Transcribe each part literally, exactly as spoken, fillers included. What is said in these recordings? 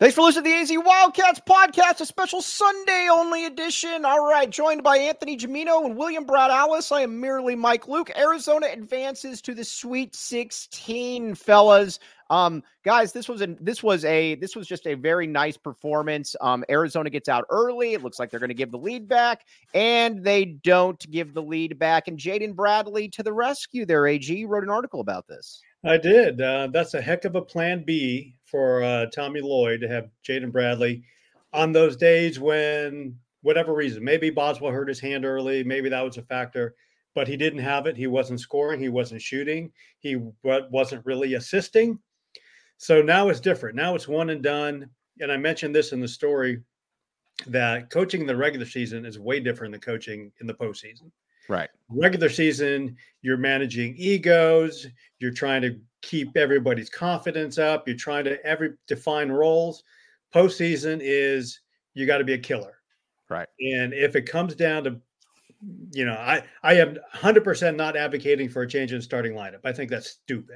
Thanks for listening to the A Z Wildcats podcast, a special Sunday-only edition. All right, joined by Anthony Gimino and William Brad Alice. I am merely Mike Luke. Arizona advances to the Sweet sixteen, fellas. Um, guys, this was a this was a this was just a very nice performance. Um, Arizona gets out early. It looks like they're going to give the lead back, and they don't give the lead back. And Jaden Bradley to the rescue. There, A G, you wrote an article about this. I did. Uh, that's a heck of a plan B for uh, Tommy Lloyd to have Jaden Bradley on those days when, whatever reason, maybe Boswell hurt his hand early, maybe that was a factor, but he didn't have it. He wasn't scoring. He wasn't shooting. He wasn't really assisting. So now it's different. Now it's one and done. And I mentioned this in the story that coaching in the regular season is way different than coaching in the postseason. Right. Regular season, you're managing egos. You're trying to keep everybody's confidence up. You're trying to every define roles. Postseason is you got to be a killer. Right. And if it comes down to, you know, I, I am one hundred percent not advocating for a change in starting lineup. I think that's stupid.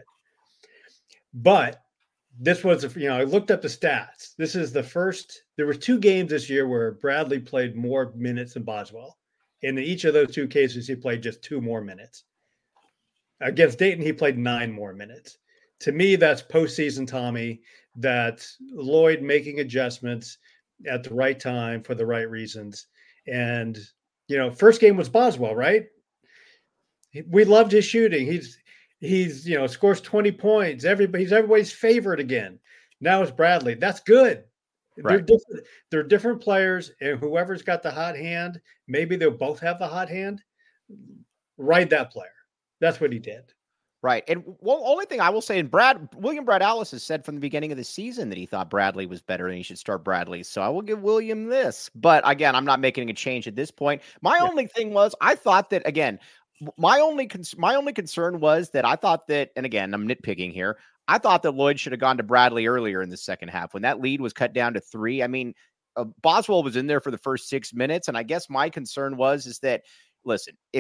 But this was, you know, I looked up the stats. This is the first, there were two games this year where Bradley played more minutes than Boswell. And in each of those two cases, he played just two more minutes. Against Dayton, he played nine more minutes. To me, that's postseason Tommy. That's Lloyd making adjustments at the right time for the right reasons. And, you know, first game was Boswell, right? We loved his shooting. He's, he's you know, scores twenty points. Everybody, he's everybody's favorite again. Now it's Bradley. That's good. Right. They're different. They're different players, and whoever's got the hot hand, maybe they'll both have the hot hand. Ride that player. That's what he did. Right. And one only thing I will say, and Brad William Brad Alice has said from the beginning of the season that he thought Bradley was better and he should start Bradley. So I will give William this. But again, I'm not making a change at this point. My yeah. only thing was I thought that again, my only con- my only concern was that I thought that, and again, I'm nitpicking here. I thought that Lloyd should have gone to Bradley earlier in the second half when that lead was cut down to three. I mean, uh, Boswell was in there for the first six minutes. And I guess my concern was, is that, listen, if,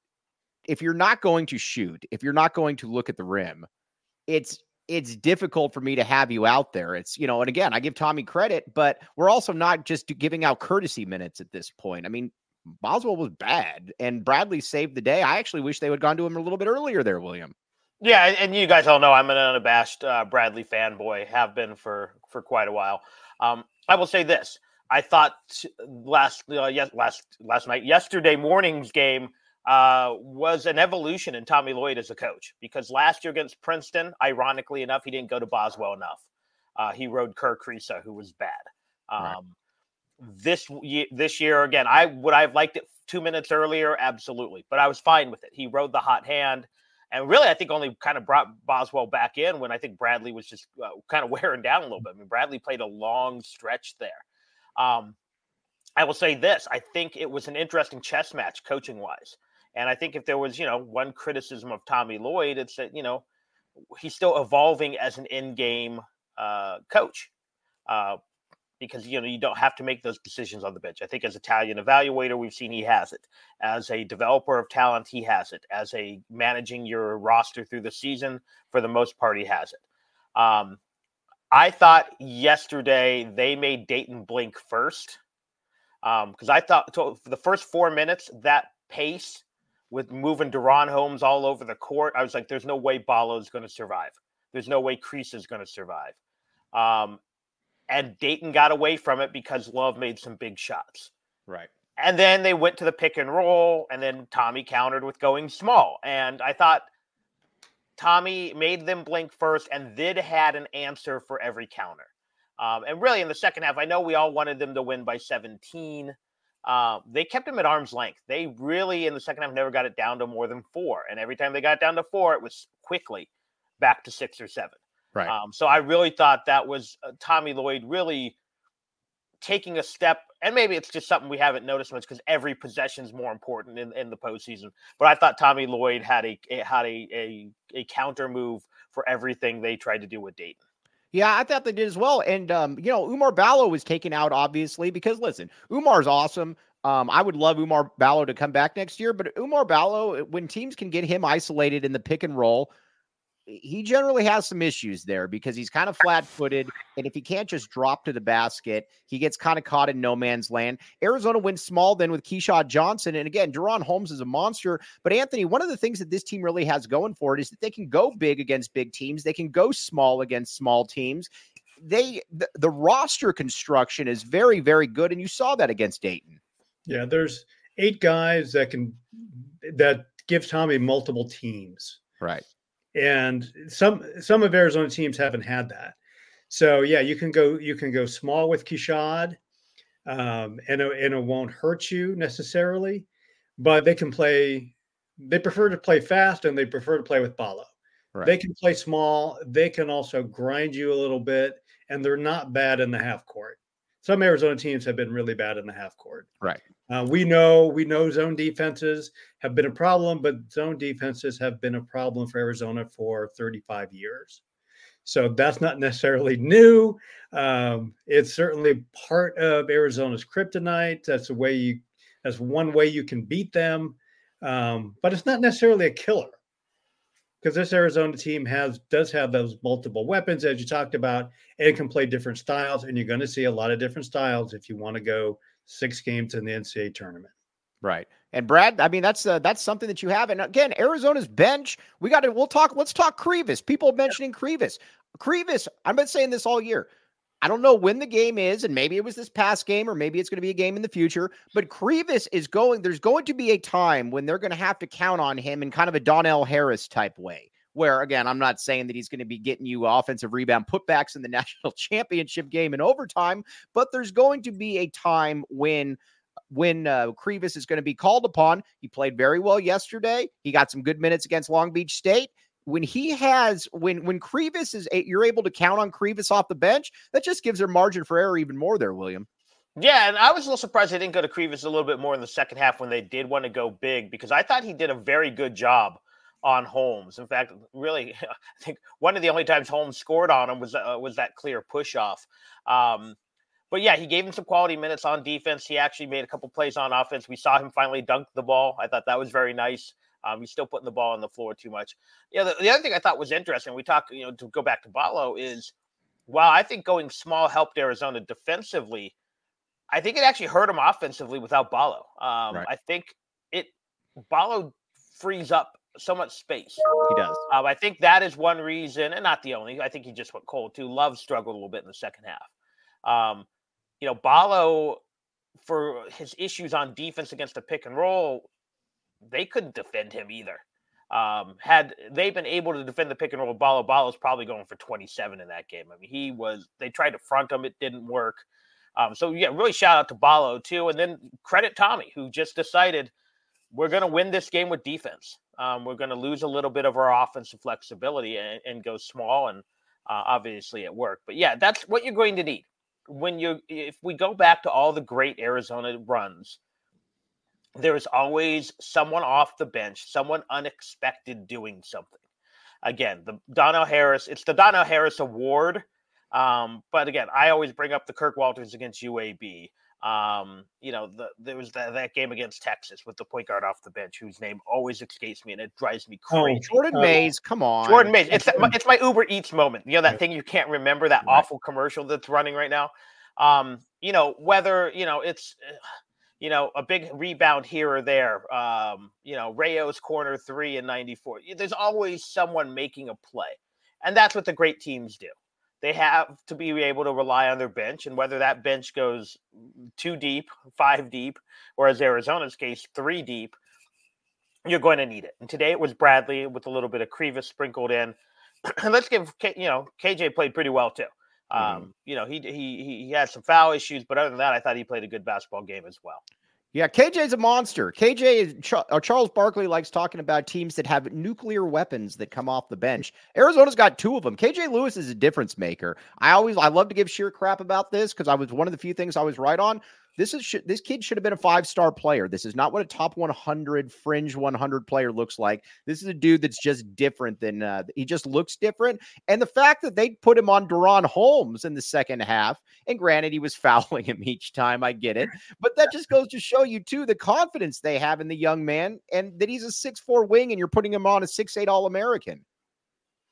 if you're not going to shoot, if you're not going to look at the rim, it's, it's difficult for me to have you out there. It's, you know, and again, I give Tommy credit, but we're also not just giving out courtesy minutes at this point. I mean, Boswell was bad and Bradley saved the day. I actually wish they would have gone to him a little bit earlier there, William. Yeah, and you guys all know I'm an unabashed uh, Bradley fanboy, have been for, for quite a while. Um, I will say this. I thought last uh, yes, last last night, yesterday morning's game uh, was an evolution in Tommy Lloyd as a coach. Because last year against Princeton, ironically enough, he didn't go to Boswell enough. Uh, he rode Kerr Kriisa, who was bad. Um, right. This this year, again, I would I have liked it two minutes earlier? Absolutely. But I was fine with it. He rode the hot hand. And really, I think only kind of brought Boswell back in when I think Bradley was just uh, kind of wearing down a little bit. I mean, Bradley played a long stretch there. Um, I will say this. I think it was an interesting chess match coaching-wise. And I think if there was, you know, one criticism of Tommy Lloyd, it's that, you know, he's still evolving as an in-game uh, coach. Uh, because, you know, you don't have to make those decisions on the bench. I think as Italian evaluator, we've seen he has it. As a developer of talent, he has it. As a managing your roster through the season, for the most part, he has it. Um, I thought yesterday they made Dayton blink first. Because um, I thought so for the first four minutes, that pace with moving Deron Holmes all over the court, I was like, there's no way Ballo's going to survive. There's no way Kriisa is going to survive. Um, And Dayton got away from it because Love made some big shots. Right. And then they went to the pick and roll, and then Tommy countered with going small. And I thought Tommy made them blink first and then had an answer for every counter. Um, and really in the second half, I know we all wanted them to win by seventeen. Uh, they kept him at arm's length. They really, in the second half, never got it down to more than four. And every time they got down to four, it was quickly back to six or seven. Right. Um, so I really thought that was uh, Tommy Lloyd really taking a step, and maybe it's just something we haven't noticed much because every possession is more important in, in the postseason. But I thought Tommy Lloyd had a had a, a a counter move for everything they tried to do with Dayton. Yeah, I thought they did as well. And, um, you know, Oumar Ballo was taken out, obviously, because, listen, Oumar's awesome. Um, I would love Oumar Ballo to come back next year. But Oumar Ballo, when teams can get him isolated in the pick and roll, he generally has some issues there because he's kind of flat-footed, and if he can't just drop to the basket, he gets kind of caught in no man's land. Arizona wins small then with Keyshawn Johnson, and again, De'Ron Holmes is a monster, but Anthony, one of the things that this team really has going for it is that they can go big against big teams, they can go small against small teams. They the, the roster construction is very, very good, and you saw that against Dayton. Yeah, there's eight guys that can that give Tommy multiple teams. Right. And some some of Arizona teams haven't had that. So yeah, you can go you can go small with Keyshawn, um, and, it, and it won't hurt you necessarily, but they can play, they prefer to play fast and they prefer to play with Ballo. Right. They can play small. They can also grind you a little bit, and they're not bad in the half court. Some Arizona teams have been really bad in the half court. Right. Uh, we know we know zone defenses have been a problem, but zone defenses have been a problem for Arizona for thirty-five years. So that's not necessarily new. Um, it's certainly part of Arizona's kryptonite. That's a way you. That's one way you can beat them, um, but it's not necessarily a killer. Because this Arizona team has does have those multiple weapons, as you talked about, and can play different styles. And you're going to see a lot of different styles if you want to go six games in the N C double A tournament. Right. And Brad, I mean, that's uh, that's something that you have. And again, Arizona's bench, we got to, we'll talk, let's talk Krivas. People mentioning Krivas. Krivas, I've been saying this all year. I don't know when the game is, and maybe it was this past game, or maybe it's going to be a game in the future, but Krivas is going, there's going to be a time when they're going to have to count on him in kind of a Donnell Harris type way, where, again, I'm not saying that he's going to be getting you offensive rebound putbacks in the national championship game in overtime, but there's going to be a time when when uh, Krivas is going to be called upon. He played very well yesterday. He got some good minutes against Long Beach State. When he has, when when Krivas is, a, you're able to count on Krivas off the bench, that just gives their margin for error even more there, William. Yeah, and I was a little surprised they didn't go to Krivas a little bit more in the second half when they did want to go big, because I thought he did a very good job on Holmes. In fact, really, I think one of the only times Holmes scored on him was uh, was that clear push off. Um, but yeah, he gave him some quality minutes on defense. He actually made a couple plays on offense. We saw him finally dunk the ball. I thought that was very nice. Um, he's still putting the ball on the floor too much. Yeah, the, the other thing I thought was interesting, we talked, you know, to go back to Ballo, is while I think going small helped Arizona defensively, I think it actually hurt him offensively without Ballo. Um, right. I think it Ballo frees up so much space. He does. Um, I think that is one reason, and not the only. I think he just went cold too. Love struggled a little bit in the second half. Um, you know, Ballo, for his issues on defense against the pick and roll, they couldn't defend him either. Um, had they been able to defend the pick and roll with Ballo, Ballo's probably going for twenty-seven in that game. I mean, he was, they tried to front him. It didn't work. Um, so yeah, really shout out to Ballo too. And then credit Tommy, who just decided we're going to win this game with defense. Um, we're going to lose a little bit of our offensive flexibility and, and go small. And uh, obviously it worked, but yeah, that's what you're going to need when you, if we go back to all the great Arizona runs, there is always someone off the bench, someone unexpected doing something. Again, the Donnell Harris, it's the Donnell Harris Award. Um, but again, I always bring up the Kirk Walters against U A B. Um, you know, the, there was that, that game against Texas with the point guard off the bench, whose name always escapes me, and it drives me crazy. Oh, Jordan uh, Mays, come on. Jordan Mays. It's, it's my Uber Eats moment. You know, that thing you can't remember, that right. awful commercial that's running right now. Um, you know, whether, you know, it's... Uh, you know, a big rebound here or there, um, you know, Rayo's corner three in ninety-four. There's always someone making a play. And that's what the great teams do. They have to be able to rely on their bench, and whether that bench goes two deep, five deep, or as Arizona's case, three deep, you're going to need it. And today it was Bradley with a little bit of Krivas sprinkled in. And let's give, you know, K J played pretty well too. Um, mm-hmm. You know, he, he he had some foul issues, but other than that, I thought he played a good basketball game as well. Yeah, K J's a monster. K J is uh, Charles Barkley likes talking about teams that have nuclear weapons that come off the bench. Arizona's got two of them. K J Lewis is a difference maker. I always I love to give sheer crap about this because I was one of the few things I was right on. This is this kid should have been a five-star player. This is not what a top one hundred fringe one hundred player looks like. This is a dude that's just different than uh, he just looks different. And the fact that they put him on De'Ron Holmes in the second half, and granted he was fouling him each time, I get it, but that just goes to show you too the confidence they have in the young man, and that he's a six four wing, and you're putting him on a six eight All-American.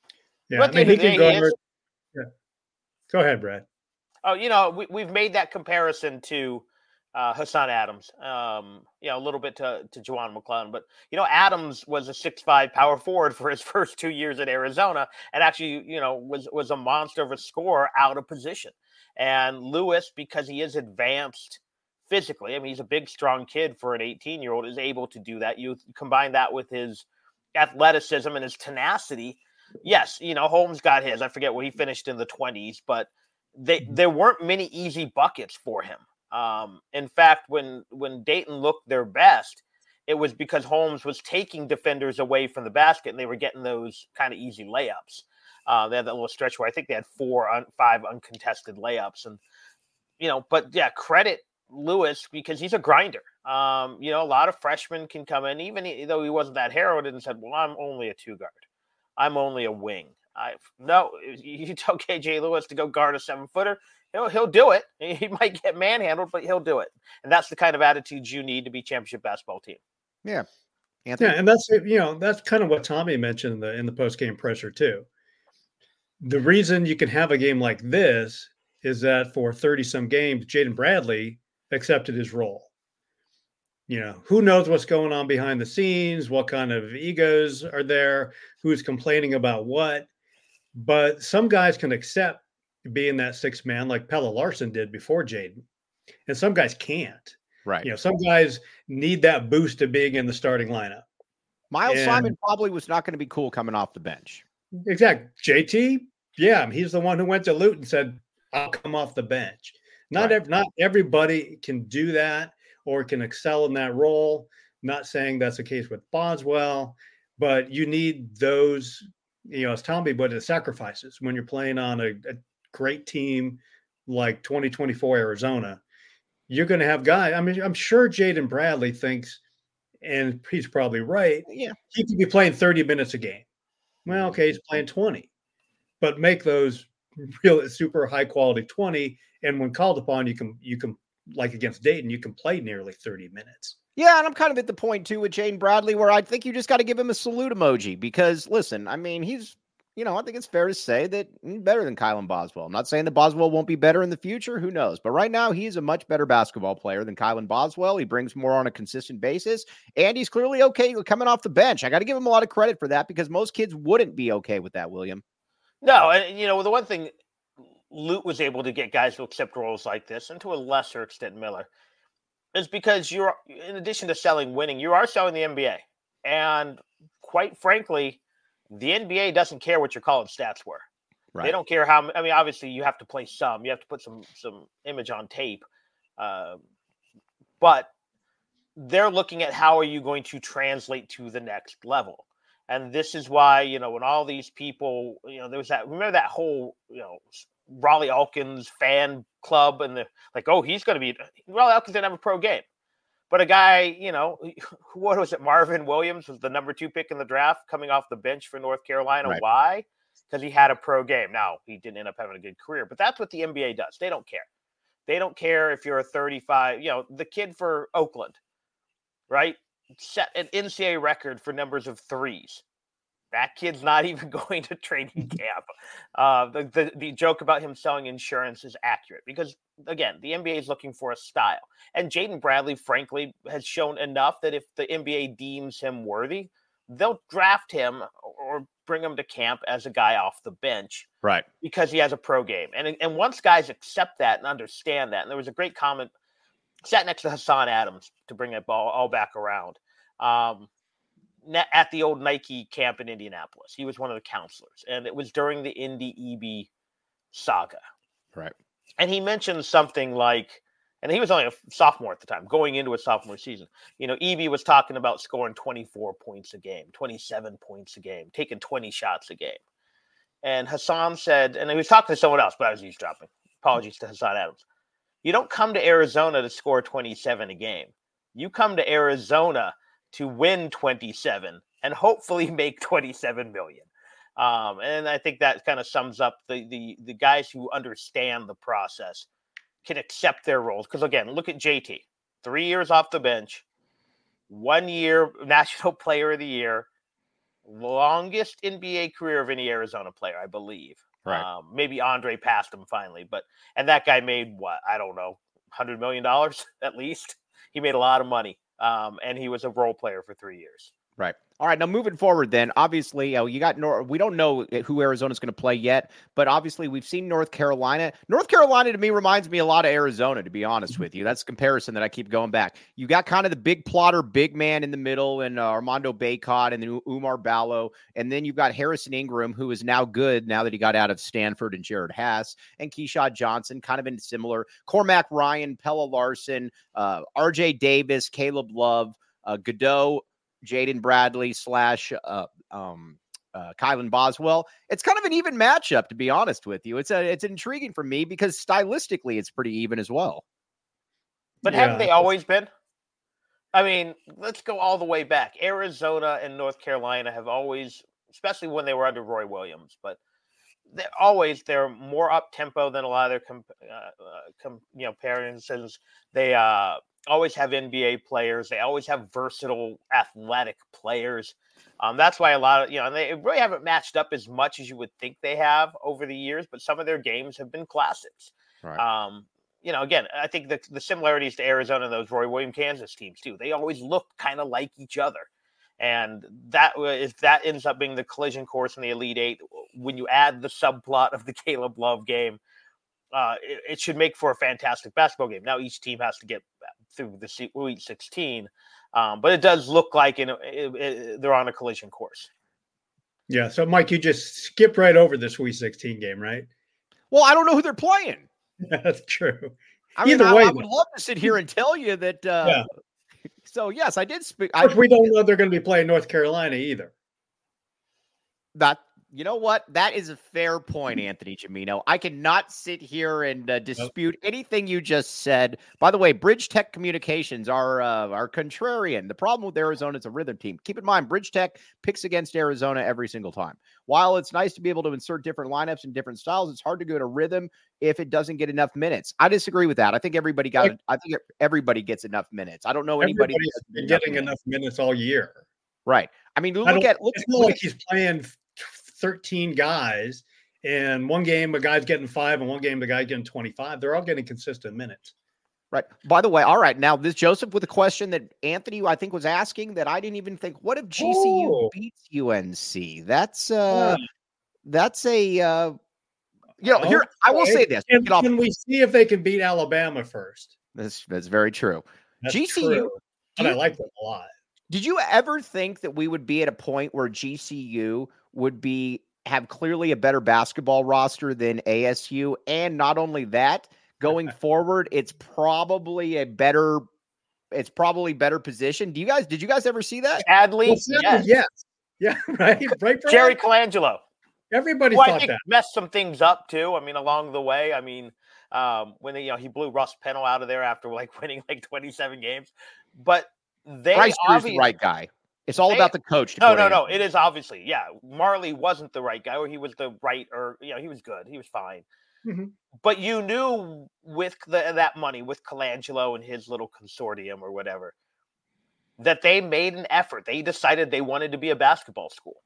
Yeah, But I at the mean, end he of the can day, he guard. is. Yeah. Go ahead, Brad. Oh, you know, we, we've made that comparison to uh, Hassan Adams, um, you know, a little bit to, to Juwan McClellan. But, you know, Adams was a six five power forward for his first two years at Arizona and actually, you know, was, was a monster of a scorer out of position. And Lewis, because he is advanced physically, I mean, he's a big, strong kid for an eighteen-year-old, is able to do that. You combine that with his athleticism and his tenacity. Yes, you know, Holmes got his. I forget what he finished in the twenties, but they there weren't many easy buckets for him. Um, in fact, when when Dayton looked their best, it was because Holmes was taking defenders away from the basket, and they were getting those kind of easy layups. Uh, they had that little stretch where I think they had four, un, five uncontested layups, and you know, but yeah, credit Lewis because he's a grinder. Um, you know, a lot of freshmen can come in, even though he wasn't that heralded, and said, "Well, I'm only a two guard. I'm only a wing." I no, you tell K J Lewis to go guard a seven footer, he'll he'll do it. He might get manhandled, but he'll do it. And that's the kind of attitude you need to be championship basketball team. Yeah, Anthony? Yeah, and that's you know that's kind of what Tommy mentioned in the in the post game presser too. The reason you can have a game like this is that for thirty some games, Jaden Bradley accepted his role. You know, who knows what's going on behind the scenes, what kind of egos are there, who's complaining about what. But some guys can accept being that sixth man like Pelle Larsson did before Jaden. And some guys can't. Right. You know, some guys need that boost of being in the starting lineup. Miles and, Simon probably was not going to be cool coming off the bench. Exactly. J T, yeah, he's the one who went to Luton and said, I'll come off the bench. Not, right. ev- not everybody can do that or can excel in that role. Not saying that's the case with Boswell, but you need those, you know, as Tommy put it, sacrifices when you're playing on a, a great team like twenty twenty-four Arizona. You're going to have guys. I mean, I'm sure Jaden Bradley thinks, and he's probably right, yeah, he could be playing thirty minutes a game. Well, okay, he's playing twenty, but make those real super high quality twenty. And when called upon, you can, you can, like against Dayton, you can play nearly thirty minutes. Yeah, and I'm kind of at the point, too, with Jaden Bradley, where I think you just got to give him a salute emoji because, listen, I mean, he's, you know, I think it's fair to say that he's better than Kylan Boswell. I'm not saying that Boswell won't be better in the future. Who knows? But right now, he's a much better basketball player than Kylan Boswell. He brings more on a consistent basis, and he's clearly okay coming off the bench. I got to give him a lot of credit for that because most kids wouldn't be okay with that, William. No, and, you know, the one thing Lute was able to get guys to accept roles like this, and to a lesser extent Miller, is because you're, in addition to selling winning, you are selling the N B A. And quite frankly, the N B A doesn't care what your college stats were. Right. They don't care how, I mean, obviously you have to play some, you have to put some, some image on tape. Uh, but they're looking at how are you going to translate to the next level. And this is why, you know, when all these people, you know, there was that, remember that whole, you know, Raleigh Elkins fan club and the like, oh, he's going to be, Raleigh Elkins didn't have a pro game. But a guy, you know, what was it? Marvin Williams was the number two pick in the draft coming off the bench for North Carolina. Right. Why? Because he had a pro game. Now, he didn't end up having a good career, but that's what the N B A does. They don't care. They don't care if you're a thirty-five, you know, the kid for Oakland, right? Set an N C A A record for numbers of threes. That kid's not even going to training camp. Uh, the, the the joke about him selling insurance is accurate because, again, the N B A is looking for a style. And Jaden Bradley, frankly, has shown enough that if the N B A deems him worthy, they'll draft him or bring him to camp as a guy off the bench. Right. Because he has a pro game. And, and once guys accept that and understand that, and there was a great comment, sat next to Hassan Adams to bring it all, all back around. Um, at the old Nike camp in Indianapolis. He was one of the counselors, and it was during the Indy E B saga. Right. And he mentioned something like, and he was only a sophomore at the time, going into a sophomore season. You know, E B was talking about scoring twenty-four points a game, twenty-seven points a game, taking twenty shots a game. And Hassan said, and he was talking to someone else, but I was eavesdropping. Apologies to Hassan Adams. You don't come to Arizona to score twenty-seven a game. You come to Arizona to win twenty-seven and hopefully make twenty-seven million. Um, and I think that kind of sums up the, the, the guys who understand the process can accept their roles. Because again, look at J T, three years off the bench, one year National Player of the Year, longest N B A career of any Arizona player, I believe. Right. Um, maybe Andre passed him finally, but and that guy made what I don't know, hundred million dollars at least. He made a lot of money, um, and he was a role player for three years. Right. All right. Now moving forward, then obviously uh, you got North. We don't know who Arizona's going to play yet, but obviously we've seen North Carolina. North Carolina to me reminds me a lot of Arizona, to be honest with you. That's a comparison that I keep going back. You got kind of the big plotter, big man in the middle, and uh, Armando Bacot, and then Umar Ballo, and then you've got Harrison Ingram, who is now good now that he got out of Stanford, and Jared Haas and Keyshawn Johnson, kind of been similar. Cormac Ryan, Pella Larson, uh, R J Davis, Caleb Love, uh, Godot, Jaden Bradley slash uh, um, uh, Kylan Boswell. It's kind of an even matchup, to be honest with you. It's a it's intriguing for me because stylistically it's pretty even as well. But Yeah. haven't they always been? I mean, let's go all the way back. Arizona and North Carolina have always, especially when they were under Roy Williams, but they're always they're more up tempo than a lot of their comp, uh, uh, com, you know comparisons. They uh, always have N B A players. They always have versatile, athletic players. Um, that's why a lot of you know and they really haven't matched up as much as you would think they have over the years. But some of their games have been classics. Right. Um, you know, again, I think the the similarities to Arizona and those Roy Williams Kansas teams too. They always look kind of like each other. And that if that ends up being the collision course in the Elite Eight, when you add the subplot of the Caleb Love game, uh, it, it should make for a fantastic basketball game. Now each team has to get through the Sweet sixteen, um, but it does look like in a, it, it, they're on a collision course. Yeah. So, Mike, you just skipped right over the Sweet sixteen game, right? Well, I don't know who they're playing. That's true. I mean, Either I, way, I would love to sit here and tell you that. Uh, Yeah. So yes, I did speak. Of course, I, we don't know they're going to be playing North Carolina either. that you know what? That is a fair point, Anthony Gimino. I cannot sit here and uh, dispute nope. anything you just said. By the way, Bridge Tech Communications are uh, are contrarian. The problem with Arizona is a rhythm team. Keep in mind, Bridge Tech picks against Arizona every single time. While it's nice to be able to insert different lineups and different styles, it's hard to go to rhythm if it doesn't get enough minutes. I disagree with that. I think everybody got. Like, I think everybody gets enough minutes. I don't know anybody that's been getting enough minutes. enough minutes all year. Right. I mean, look I at look. It's not like he's playing thirteen guys, and one game a guy's getting five, and one game the guy's getting twenty-five. They're all getting consistent minutes. Right. By the way, all right. Now, this Joseph with a question that Anthony, I think, was asking that I didn't even think. What if G C U oh. beats U N C? That's uh, yeah. that's a uh, you know. Okay. Here, I will say this. Can, can we see if they can beat Alabama first? That's that's very true. That's G C U, true. And I like them a lot. Did you ever think that we would be at a point where G C U would be have clearly a better basketball roster than A S U? And not only that, going forward, it's probably a better, it's probably better position. Do you guys, did you guys ever see that? Adley, well, yes. yes. Yeah, right. Right. Jerry Colangelo. Everybody well, thought I think that. Messed some things up too. I mean, along the way, I mean, um, when they, you know, he blew Russ Pennell out of there after like winning like twenty-seven games, but they Bryce Drew's the right guy. It's all they, about the coach. No, no, no. It is obviously, yeah. Marley wasn't the right guy, or he was the right, or you know, he was good. He was fine. Mm-hmm. But you knew with the, that money, with Colangelo and his little consortium or whatever, that they made an effort. They decided they wanted to be a basketball school.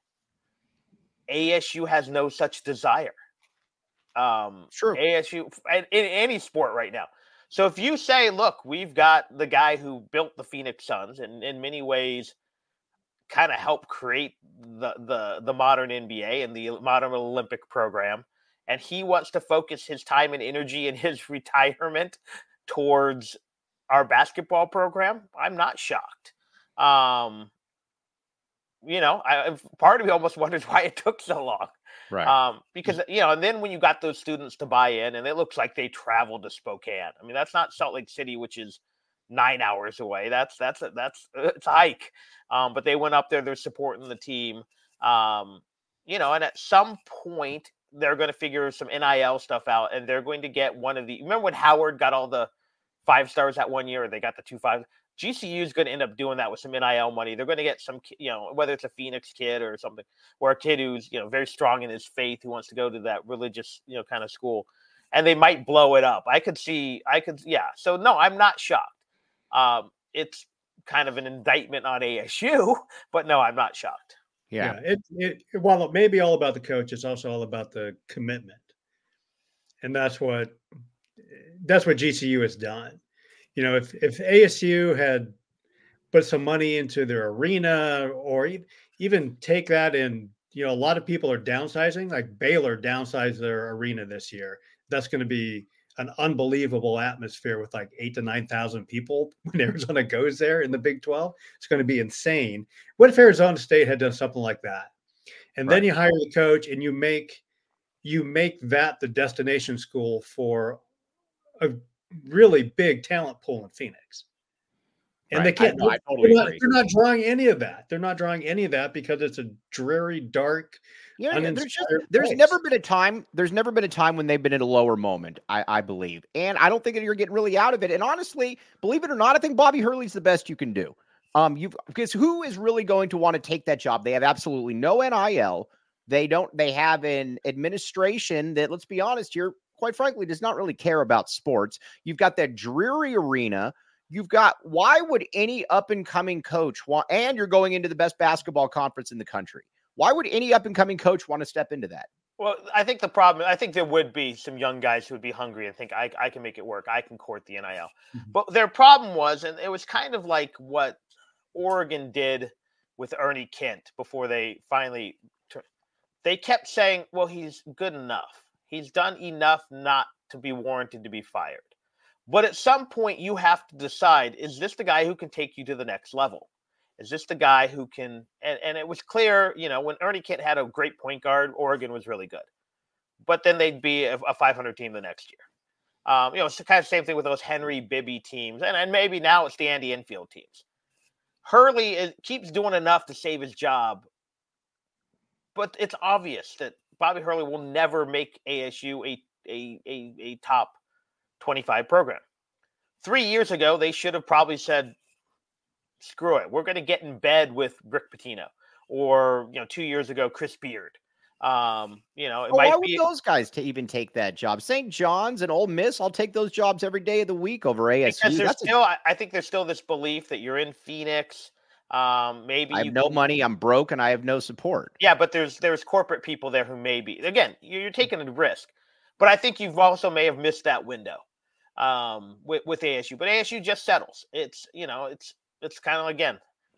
A S U has no such desire. Um, sure. A S U in, in any sport right now. So if you say, look, we've got the guy who built the Phoenix Suns and in many ways kind of helped create the, the, the modern N B A and the modern Olympic program, and he wants to focus his time and energy in his retirement towards our basketball program, I'm not shocked. Um, you know, I, part of me almost wonders why it took so long. Right. Um, because, you know, and then when you got those students to buy in, and it looks like they traveled to Spokane. I mean, that's not Salt Lake City, which is nine hours away. That's, that's, a, that's, it's a hike. Um, but they went up there, they're supporting the team. Um, you know, and at some point they're going to figure some N I L stuff out, and they're going to get one of the, remember when Howard got all the five stars that one year, or they got the two five? G C U is going to end up doing that with some N I L money. They're going to get some, you know, whether it's a Phoenix kid or something, or a kid who's, you know, very strong in his faith, who wants to go to that religious, you know, kind of school, and they might blow it up. I could see, I could, yeah. So no, I'm not shocked. Um, it's kind of an indictment on A S U, but no, I'm not shocked. Yeah. yeah it, it, while it may be all about the coach, it's also all about the commitment. And that's what that's what G C U has done. You know, if if A S U had put some money into their arena, or even take that in, you know, a lot of people are downsizing, like Baylor downsized their arena this year. That's going to be an unbelievable atmosphere with like eight to nine thousand people when Arizona goes there in the Big twelve. It's going to be insane. What if Arizona State had done something like that? And right. then you hire the coach and you make you make that the destination school for a really big talent pool in Phoenix. And right. they can't. I, no, I totally they're, not, agree. they're not drawing any of that. They're not drawing any of that because it's a dreary, dark. Yeah, there's just there's place. never been a time. There's never been a time when they've been in a lower moment. I, I believe, and I don't think that you're getting really out of it. And honestly, believe it or not, I think Bobby Hurley's the best you can do. Um, you because who is really going to want to take that job? They have absolutely no N I L. They don't. They have an administration that, let's be honest here, quite frankly, does not really care about sports. You've got that dreary arena. You've got, why would any up-and-coming coach want, and you're going into the best basketball conference in the country. Why would any up-and-coming coach want to step into that? Well, I think the problem, I think there would be some young guys who would be hungry and think, I, I can make it work. I can court the N I L. Mm-hmm. But their problem was, and it was kind of like what Oregon did with Ernie Kent before they finally, they kept saying, well, he's good enough. He's done enough not to be warranted to be fired. But at some point, you have to decide, is this the guy who can take you to the next level? Is this the guy who can – and and it was clear, you know, when Ernie Kent had a great point guard, Oregon was really good. But then they'd be a, a five hundred team the next year. Um, you know, it's the kind of same thing with those Henry Bibby teams. And, and maybe now it's the Andy Enfield teams. Hurley is, keeps doing enough to save his job. But it's obvious that Bobby Hurley will never make A S U a a a, a top – twenty-five program. Three years ago, they should have probably said, screw it. We're going to get in bed with Rick Pitino. Or, you know, two years ago, Chris Beard. Um, you know, it well, might why be would those guys to even take that job? Saint John's and Ole Miss, I'll take those jobs every day of the week over A S U. Because there's That's still, a... I think there's still this belief that you're in Phoenix. Um, maybe I have you no can... money, I'm broke, and I have no support. Yeah, but there's there's corporate people there who may be. Again, you're, you're taking a risk. But I think you've also may have missed that window. Um, with, with A S U, but A S U just settles. It's, you know, it's, it's kind of, again,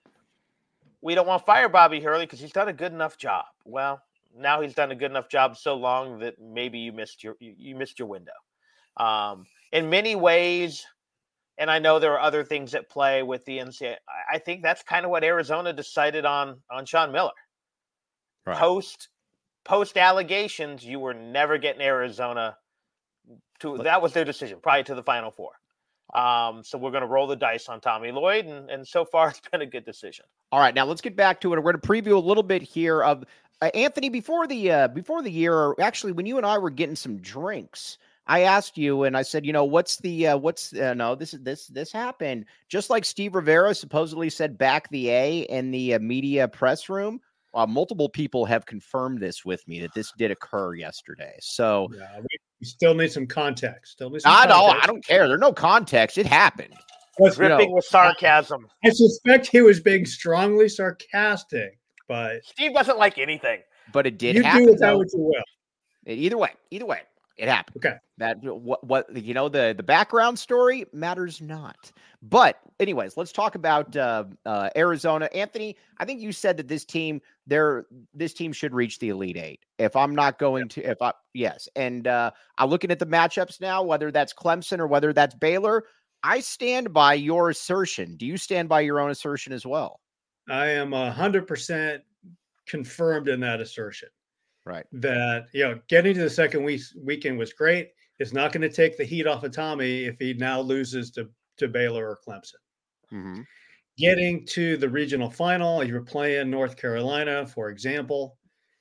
we don't want to fire Bobby Hurley because he's done a good enough job. Well, now he's done a good enough job so long that maybe you missed your, you, you missed your window. Um, in many ways, and I know there are other things at play with the N C double A. I think that's kind of what Arizona decided on, on Sean Miller. Right. Post, post allegations, you were never getting Arizona To, that was their decision prior to the Final Four. Um, so we're going to roll the dice on Tommy Lloyd, and, and so far it's been a good decision. All right, now let's get back to it. We're going to preview a little bit here of uh, Anthony before the uh, before the year. Actually, when you and I were getting some drinks, I asked you, and I said, you know, what's the uh, what's uh, no this is this this happened just like Steve Rivera supposedly said back the A in the uh, media press room. Uh, multiple people have confirmed this with me that this did occur yesterday. So yeah, we, we still need some context. Still need some I context. don't. I don't care. There's no context. It happened. Dripping you know, with sarcasm. I suspect he was being strongly sarcastic, but Steve doesn't like anything. But it did you happen. You do with that what you will. Either way, either way, it happened. Okay. That what what you know the the background story matters not. But anyways, let's talk about uh, uh, Arizona. Anthony, I think you said that this team, they're this team should reach the Elite Eight. If I'm not going to, if I yes, and uh, I'm looking at the matchups now, whether that's Clemson or whether that's Baylor. I stand by your assertion. Do you stand by your own assertion as well? I am a hundred percent confirmed in that assertion. Right. That, you know, getting to the second week weekend was great. It's not going to take the heat off of Tommy if he now loses to, to Baylor or Clemson. Mm-hmm. Getting to the regional final, if you're playing North Carolina, for example,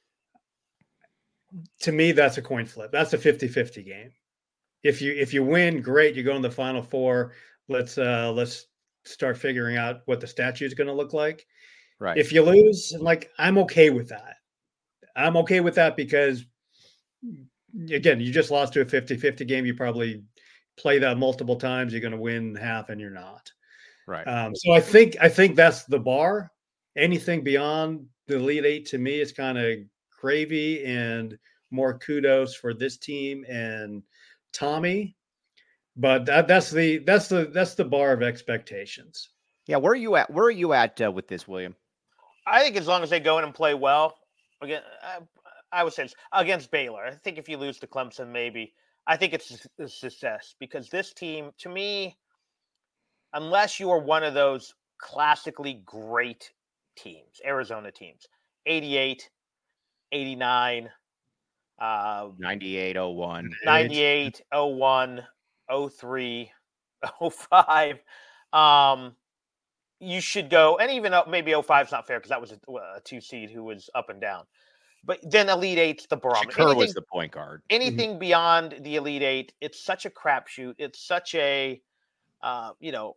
to me, that's a coin flip. That's a fifty-fifty game. If you if you win, great. You go in the Final Four. Let's uh, let's start figuring out what the statue is going to look like. Right. If you lose, like I'm okay with that. I'm okay with that because, again, you just lost to a fifty-fifty game. You probably play that multiple times. You're going to win half, and you're not. Right. Um, so I think I think that's the bar. Anything beyond the Elite Eight to me is kind of gravy and more kudos for this team and Tommy. But that, that's the that's the that's the bar of expectations. Yeah, where are you at? Where are you at uh, with this, William? I think as long as they go in and play well, again, I, I would say it's against Baylor. I think if you lose to Clemson, maybe I think it's a success because this team, to me, unless you are one of those classically great teams, Arizona teams, eighty-eight, eighty-nine, uh, ninety-eight, oh one, ninety-eight, oh one, oh three, oh five. Um, you should go, and even maybe oh five is not fair because that was a, a two seed who was up and down. But then Elite Eight's the barometer. Shakur was the point guard. Anything mm-hmm. beyond the Elite Eight, it's such a crapshoot. It's such a, uh, you know,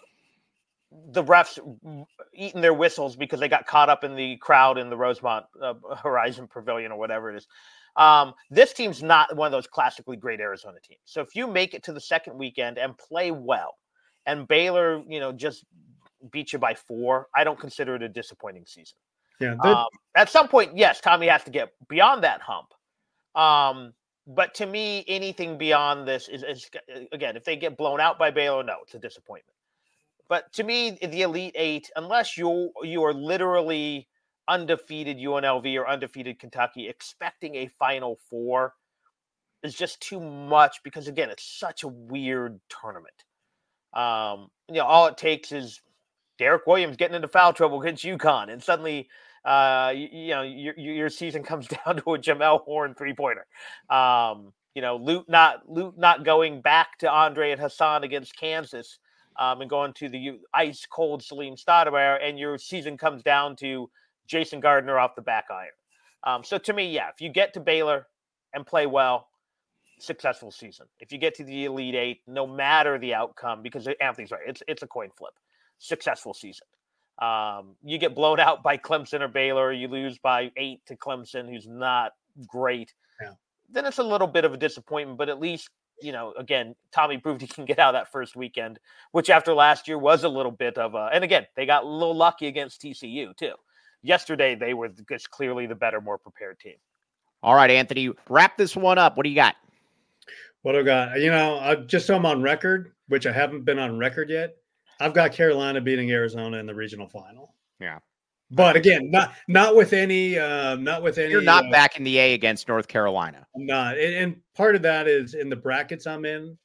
the refs eating their whistles because they got caught up in the crowd in the Rosemont uh, Horizon Pavilion or whatever it is. Um, this team's not one of those classically great Arizona teams. So if you make it to the second weekend and play well, and Baylor, you know, just beat you by four, I don't consider it a disappointing season. Yeah. Um, at some point, yes, Tommy has to get beyond that hump. Um, but to me, anything beyond this is, is, again, if they get blown out by Baylor, no, it's a disappointment. But to me, the Elite Eight, unless you you are literally undefeated U N L V or undefeated Kentucky, expecting a Final Four is just too much because, again, it's such a weird tournament. Um, you know, all it takes is Derek Williams getting into foul trouble against UConn, and suddenly, uh, you, you know, your your season comes down to a Jamel Horn three pointer. Um, you know, Lute not Lute not going back to Andre and Hassan against Kansas, um, and going to the ice cold Salim Stoudemire, and your season comes down to Jason Gardner off the back iron. Um, so to me, yeah, if you get to Baylor and play well, successful season. If you get to the Elite Eight, no matter the outcome, because Anthony's right, it's it's a coin flip. Successful season. Um, you get blown out by Clemson or Baylor, you lose by eight to Clemson, who's not great. Yeah. Then it's a little bit of a disappointment, but at least, you know, again, Tommy proved he can get out that first weekend, which after last year was a little bit of a, and again, they got a little lucky against T C U too. Yesterday, they were just clearly the better, more prepared team. All right, Anthony, wrap this one up. What do you got? What I got? You know, I, just so I'm on record, which I haven't been on record yet, I've got Carolina beating Arizona in the regional final. Yeah. But again, not not with any, uh, not with any. You're not uh, back in the A against North Carolina. I'm not. And, and part of that is in the brackets I'm in.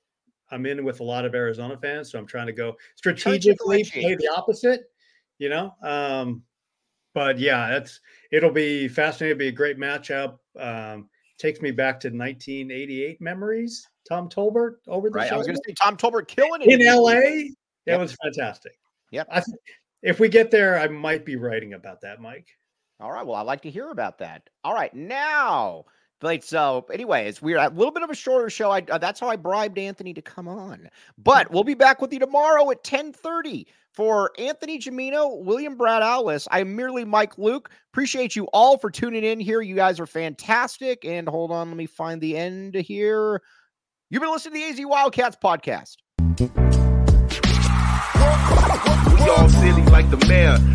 I'm in with a lot of Arizona fans, so I'm trying to go strategically play the opposite, you know. Um, but yeah, that's it'll be fascinating. It'll be a great matchup. Um, takes me back to nineteen eighty-eight memories. Tom Tolbert over the right. shoulder. I was going to say Tom Tolbert killing it in L A. That yep. was fantastic. Yep. I th- if we get there, I might be writing about that, Mike. All right. Well, I'd like to hear about that. All right. Now, like, so anyways, we're at a little bit of a shorter show. I, uh, that's how I bribed Anthony to come on. But we'll be back with you tomorrow at ten thirty. For Anthony Gimino, William Brad Allis, I'm merely Mike Luke. Appreciate you all for tuning in here. You guys are fantastic. And hold on, let me find the end here. You've been listening to the A Z Wildcats podcast. We all silly like the mayor.